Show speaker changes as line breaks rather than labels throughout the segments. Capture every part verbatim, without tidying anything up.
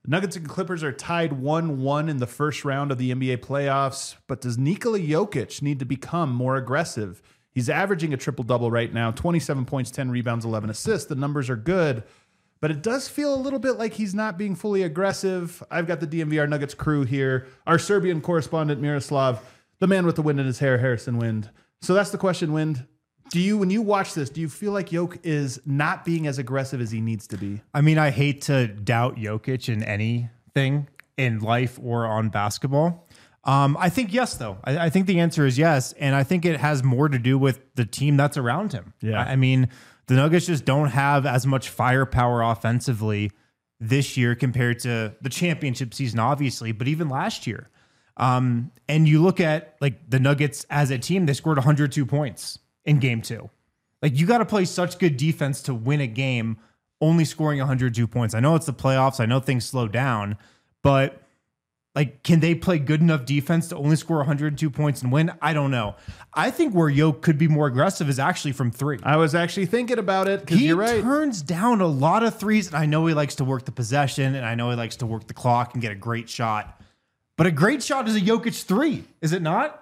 Nuggets and Clippers are tied one one in the first round of the N B A playoffs, but does Nikola Jokic need to become more aggressive? He's averaging a triple-double right now, twenty-seven points, ten rebounds, eleven assists. The numbers are good, but it does feel a little bit like he's not being fully aggressive. I've got the D N V R Nuggets crew here. Our Serbian correspondent, Miroslav, the man with the wind in his hair, Harrison Wind. So that's the question, Wind. Do you, when you watch this, do you feel like Jokic is not being as aggressive as he needs to be?
I mean, I hate to doubt Jokic in anything in life or on basketball. Um, I think yes, though. I, I think the answer is yes, and I think it has more to do with the team that's around him.
Yeah.
I, I mean, the Nuggets just don't have as much firepower offensively this year compared to the championship season, obviously, but even last year. Um, and you look at like the Nuggets as a team, they scored one hundred two points in game two. Like, you got to play such good defense to win a game, only scoring one hundred two points. I know it's the playoffs. I know things slow down, but like, can they play good enough defense to only score one hundred two points and win? I don't know. I think where Jokic could be more aggressive is actually from three.
I was actually thinking about it because
He
you're right.
turns down a lot of threes, and I know he likes to work the possession, and I know he likes to work the clock and get a great shot. But a great shot is a Jokic three, is it not?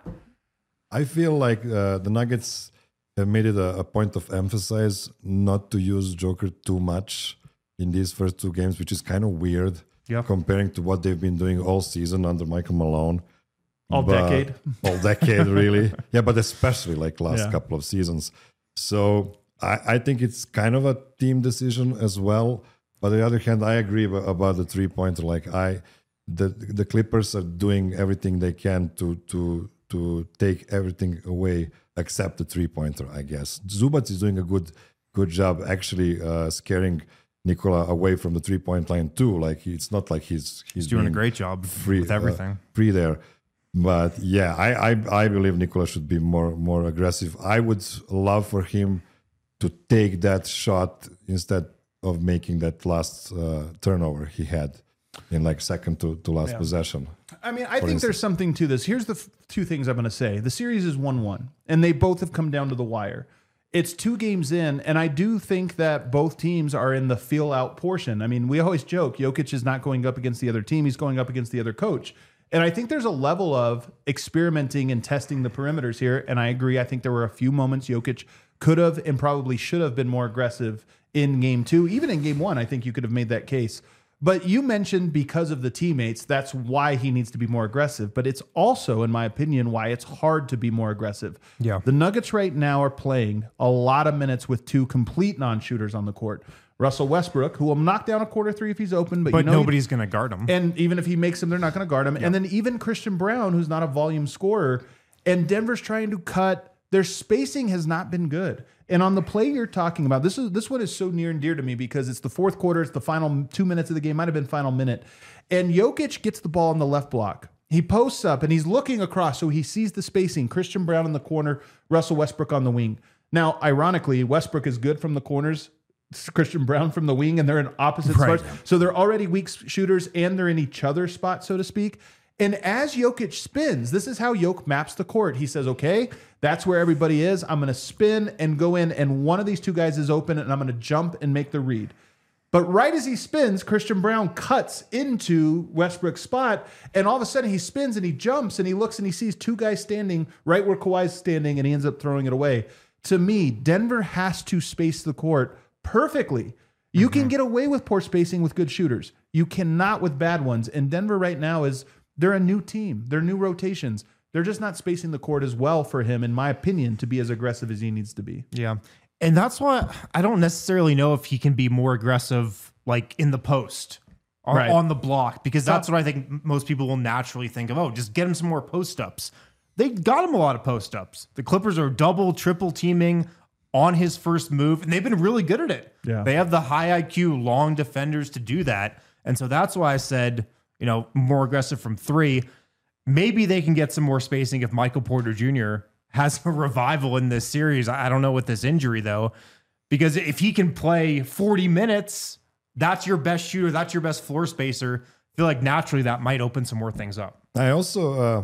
I feel like uh, the Nuggets have made it a, a point of emphasis not to use Joker too much in these first two games, which is kind of weird
Yeah.
comparing to what they've been doing all season under Michael Malone.
All
But-
decade.
All decade, really. Yeah, but especially like last
Yeah.
couple of seasons. So I, I think it's kind of a team decision as well. But on the other hand, I agree about, about the three-pointer. Like I, the the Clippers are doing everything they can to to to take everything away except the three-pointer, I guess. Zubac is doing a good good job actually uh, scaring Nikola away from the three-point line too. Like he- it's not like he's he's,
He's doing a
being
great job
free
with everything.
uh, free there. But yeah, I, I I believe Nikola should be more more aggressive. I would love for him to take that shot instead of making that last uh, turnover he had in like second to, to last
Yeah.
possession.
I mean, I think
instance.
there's something to this. Here's the f- two things I'm going to say. The series is one one, and they both have come down to the wire. It's two games in, and I do think that both teams are in the feel-out portion. I mean, we always joke, Jokic is not going up against the other team. He's going up against the other coach. And I think there's a level of experimenting and testing the perimeters here, and I agree. I think there were a few moments Jokic could have and probably should have been more aggressive in game two. Even in game one, I think you could have made that case. But you mentioned because of the teammates, that's why he needs to be more aggressive. But it's also, in my opinion, why it's hard to be more aggressive.
Yeah.
The Nuggets right now are playing a lot of minutes with two complete non-shooters on the court. Russell Westbrook, who will knock down a quarter three if he's open, but,
But
you know
nobody's going to guard him.
and even if he makes them, they're not going to guard him. And then even Christian Brown, who's not a volume scorer, and Denver's trying to cut. Their spacing has not been good. And on the play you're talking about, this is this one is so near and dear to me because it's the fourth quarter. It's the final two minutes of the game. Might have been final minute. And Jokic gets the ball in the left block. He posts up and he's looking across, so he sees the spacing. Christian Brown in the corner, Russell Westbrook on the wing. Now, ironically, Westbrook is good from the corners. Christian Brown from the wing, and they're in opposite
Right.
spots. So they're already weak shooters, and they're in each other's spot, so to speak. And as Jokic spins, this is how Jokic maps the court. He says, okay, that's where everybody is. I'm going to spin and go in, and one of these two guys is open, and I'm going to jump and make the read. But right as he spins, Christian Brown cuts into Westbrook's spot, and all of a sudden he spins and he jumps, and he looks and he sees two guys standing right where Kawhi's standing, and he ends up throwing it away. To me, Denver has to space the court perfectly. You can get away with poor spacing with good shooters. You cannot with bad ones. And Denver right now is, they're a new team. They're new rotations. They're just not spacing the court as well for him, in my opinion, to be as aggressive as he needs to be.
Yeah. And that's why I don't necessarily know if he can be more aggressive, like in the post or
Right.
on the block, because that's what I think most people will naturally think of. Oh, just get him some more post ups. They got him a lot of post ups. The Clippers are double, triple teaming on his first move, and they've been really good at it.
Yeah.
They have the high I Q, long defenders to do that. And so that's why I said, you know, more aggressive from three. Maybe they can get some more spacing if Michael Porter Junior has a revival in this series. I don't know with this injury, though, because if he can play forty minutes, that's your best shooter, that's your best floor spacer. I feel like naturally that might open some more things up.
I also, uh,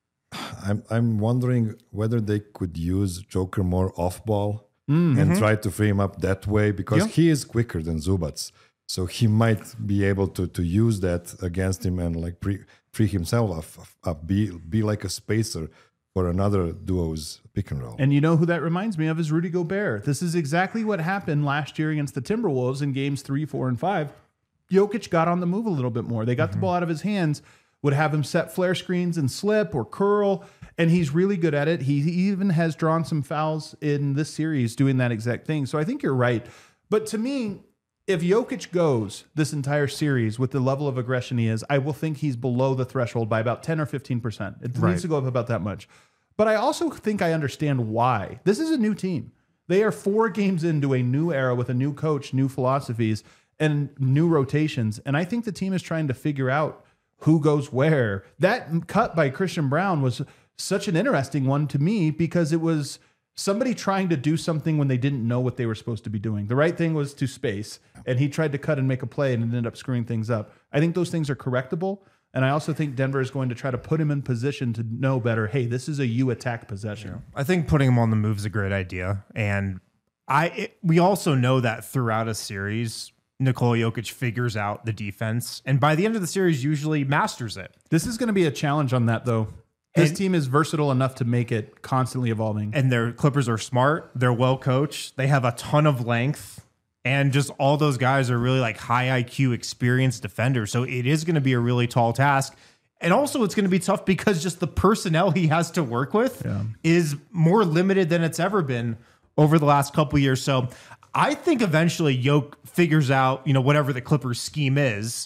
I'm I'm wondering whether they could use Joker more off ball and try to free him up that way because
Yeah.
he is quicker than Zubac. So he might be able to to use that against him and like pre, free himself up, up, be be like a spacer for another duo's pick and roll.
And you know who that reminds me of is Rudy Gobert. This is exactly what happened last year against the Timberwolves in games three, four, and five. Jokic got on the move a little bit more. They got mm-hmm. the ball out of his hands, would have him set flare screens and slip or curl, and he's really good at it. He even has drawn some fouls in this series doing that exact thing. So I think you're right. But to me, if Jokic goes this entire series with the level of aggression he is, I will think he's below the threshold by about ten or fifteen percent. It
Right.
needs to go up about that much. But I also think I understand why. This is a new team. They are four games into a new era with a new coach, new philosophies, and new rotations. And I think the team is trying to figure out who goes where. That cut by Christian Braun was such an interesting one to me because it was somebody trying to do something when they didn't know what they were supposed to be doing. The right thing was to space, and he tried to cut and make a play and it ended up screwing things up. I think those things are correctable. And I also think Denver is going to try to put him in position to know better, hey, this is a you attack possession.
I think putting him on the move is a great idea. And I it, we also know that throughout a series, Nikola Jokic figures out the defense. And by the end of the series, usually masters it.
This is going to be a challenge on that, though. His
And-
team is versatile enough to make it constantly evolving.
And their Clippers are smart. They're well coached. They have a ton of length. And just all those guys are really like high I Q experienced defenders. So it is going to be a really tall task. And also it's going to be tough because just the personnel he has to work with
Yeah.
is more limited than it's ever been over the last couple of years. So I think eventually Yoke figures out, you know, whatever the Clippers scheme is,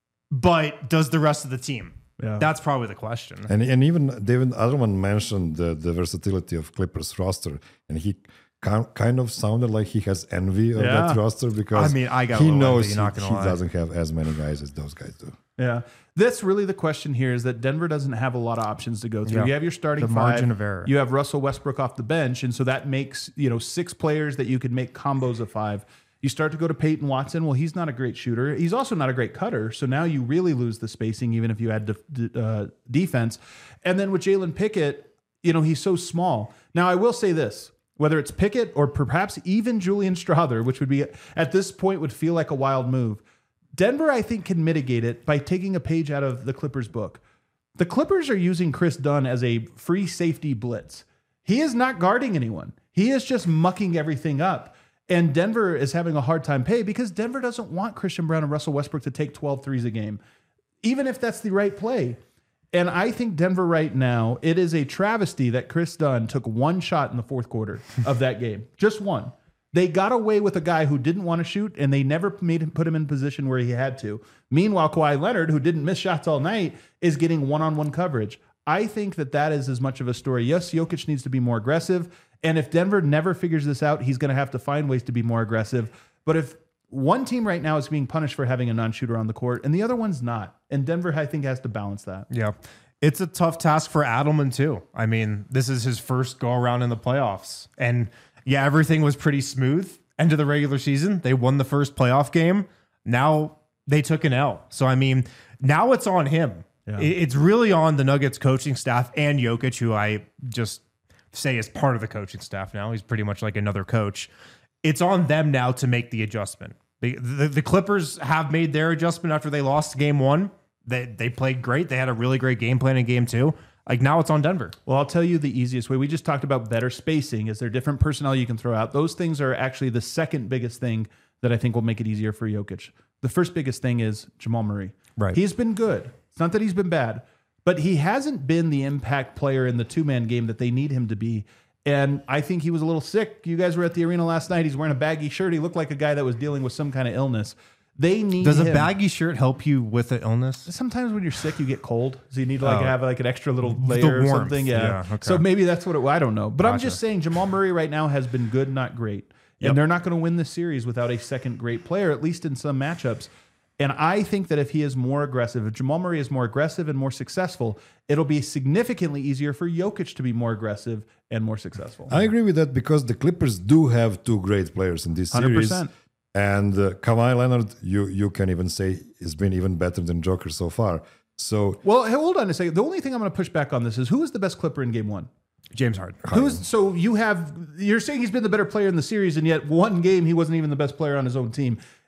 but does the rest of the team?
Yeah.
That's probably the question.
And and even David Edelman mentioned the, the versatility of Clippers roster, and he ki- kind of sounded like he has envy of
Yeah.
that roster because
I mean, I got a
he
little
knows
envy, not
he,
gonna
he
lie.
doesn't have as many guys as those guys do.
Yeah. That's really the question here is that Denver doesn't have a lot of options to go through.
Yeah.
You have your starting
The
five.
margin of error.
You have Russell Westbrook off the bench. And so that makes, you know, six players that you could make combos of five. You start to go to Peyton Watson. Well, he's not a great shooter. He's also not a great cutter. So now you really lose the spacing, even if you had de- uh, defense. And then with Jalen Pickett, you know, he's so small. Now, I will say this. Whether it's Pickett or perhaps even Julian Strother, which would be at this point would feel like a wild move. Denver, I think, can mitigate it by taking a page out of the Clippers book. The Clippers are using Chris Dunn as a free safety blitz. He is not guarding anyone. He is just mucking everything up. And Denver is having a hard time pay because Denver doesn't want Christian Braun and Russell Westbrook to take twelve threes a game, even if that's the right play. And I think Denver right now, it is a travesty that Chris Dunn took one shot in the fourth quarter of that game. Just one. They got away with a guy who didn't want to shoot, and they never made him put him in position where he had to. Meanwhile, Kawhi Leonard, who didn't miss shots all night, is getting one-on-one coverage. I think that that is as much of a story. Yes, Jokic needs to be more aggressive, and if Denver never figures this out, he's going to have to find ways to be more aggressive. But if one team right now is being punished for having a non-shooter on the court, and the other one's not, and Denver, I think, has to balance that.
Yeah. It's a tough task for Adelman, too. I mean, this is his first go around in the playoffs. And yeah, everything was pretty smooth. End of the regular season, they won the first playoff game. Now they took an L. So, I mean, now it's on him.
Yeah.
It- It's really on the Nuggets coaching staff and Jokic, who I just say is part of the coaching staff now. He's pretty much like another coach. It's on them now to make the adjustment. The, the, the Clippers have made their adjustment after they lost game one. They they played great. They had a really great game plan in game two. Like now it's on Denver.
Well, I'll tell you the easiest way. We just talked about better spacing. Is there different personnel you can throw out? Those things are actually the second biggest thing that I think will make it easier for Jokic. The first biggest thing is Jamal Murray.
Right.
He's been good. It's not that he's been bad, but he hasn't been the impact player in the two-man game that they need him to be. And I think he was a little sick. You guys were at the arena last night. He's wearing a baggy shirt. He looked like a guy that was dealing with some kind of illness. They need
Does a
him.
baggy shirt help you with an illness?
Sometimes when you're sick, you get cold, so you need to like
Oh.
have like an extra little layer or
warmth.
something. Yeah.
Yeah, okay.
So maybe that's what it. I don't know, but I'm
Gotcha.
just saying Jamal Murray right now has been good, not great,
Yep.
and they're not going to win this series without a second great player, at least in some matchups. And I think that if he is more aggressive, if Jamal Murray is more aggressive and more successful, it'll be significantly easier for Jokic to be more aggressive and more successful.
I agree with that because the Clippers do have two great players in this
one hundred
series.
percent.
And uh, Kawhi Leonard, you you can even say, has been even better than Joker so far. So
Well, hey, hold on a second. The only thing I'm going to push back on this is who is the best Clipper in Game One?
James Harden.
Who's so you have you're saying he's been the better player in the series, and yet one game he wasn't even the best player on his own team.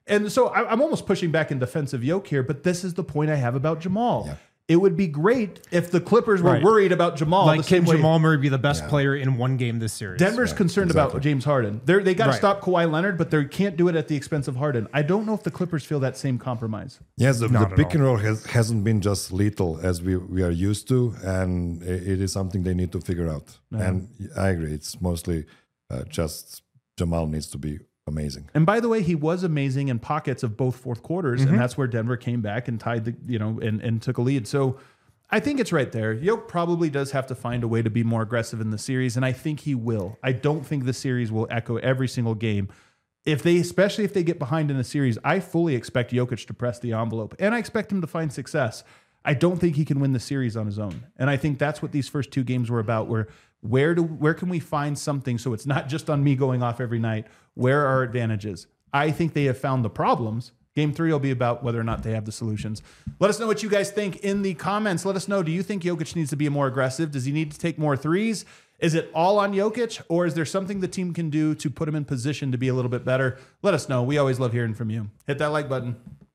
And so I, I'm almost pushing back in defense of Yoke here, but this is the point I have about Jamal.
Yeah.
It would be great if the Clippers were
Right.
worried about Jamal.
Like,
the same
can
way
Jamal Murray be the best
Yeah.
player in one game this series?
Denver's
Right,
concerned
exactly.
about James Harden. They're, they got to
Right.
stop Kawhi Leonard, but they can't do it at the expense of Harden. I don't know if the Clippers feel that same compromise.
Yes, the, the
Not at
pick
all.
and roll has, hasn't been just lethal as we, we are used to, and i- it is something they need to figure out. And I agree, it's mostly uh, just Jamal needs to be amazing.
And by the way, he was amazing in pockets of both fourth quarters, and that's where Denver came back and tied the, you know, and, and took a lead. So I think it's right there. Yoke probably does have to find a way to be more aggressive in the series, and I think he will. I don't think the series will echo every single game. If they, especially if they get behind in the series, I fully expect Jokic to press the envelope, and I expect him to find success. I don't think he can win the series on his own, and I think that's what these first two games were about. Where where do where can we find something so it's not just on me going off every night? Where are our advantages? I think they have found the problems. Game three will be about whether or not they have the solutions. Let us know what you guys think in the comments. Let us know, do you think Jokic needs to be more aggressive? Does he need to take more threes? Is it all on Jokic, or is there something the team can do to put him in position to be a little bit better? Let us know. We always love hearing from you. Hit that like button.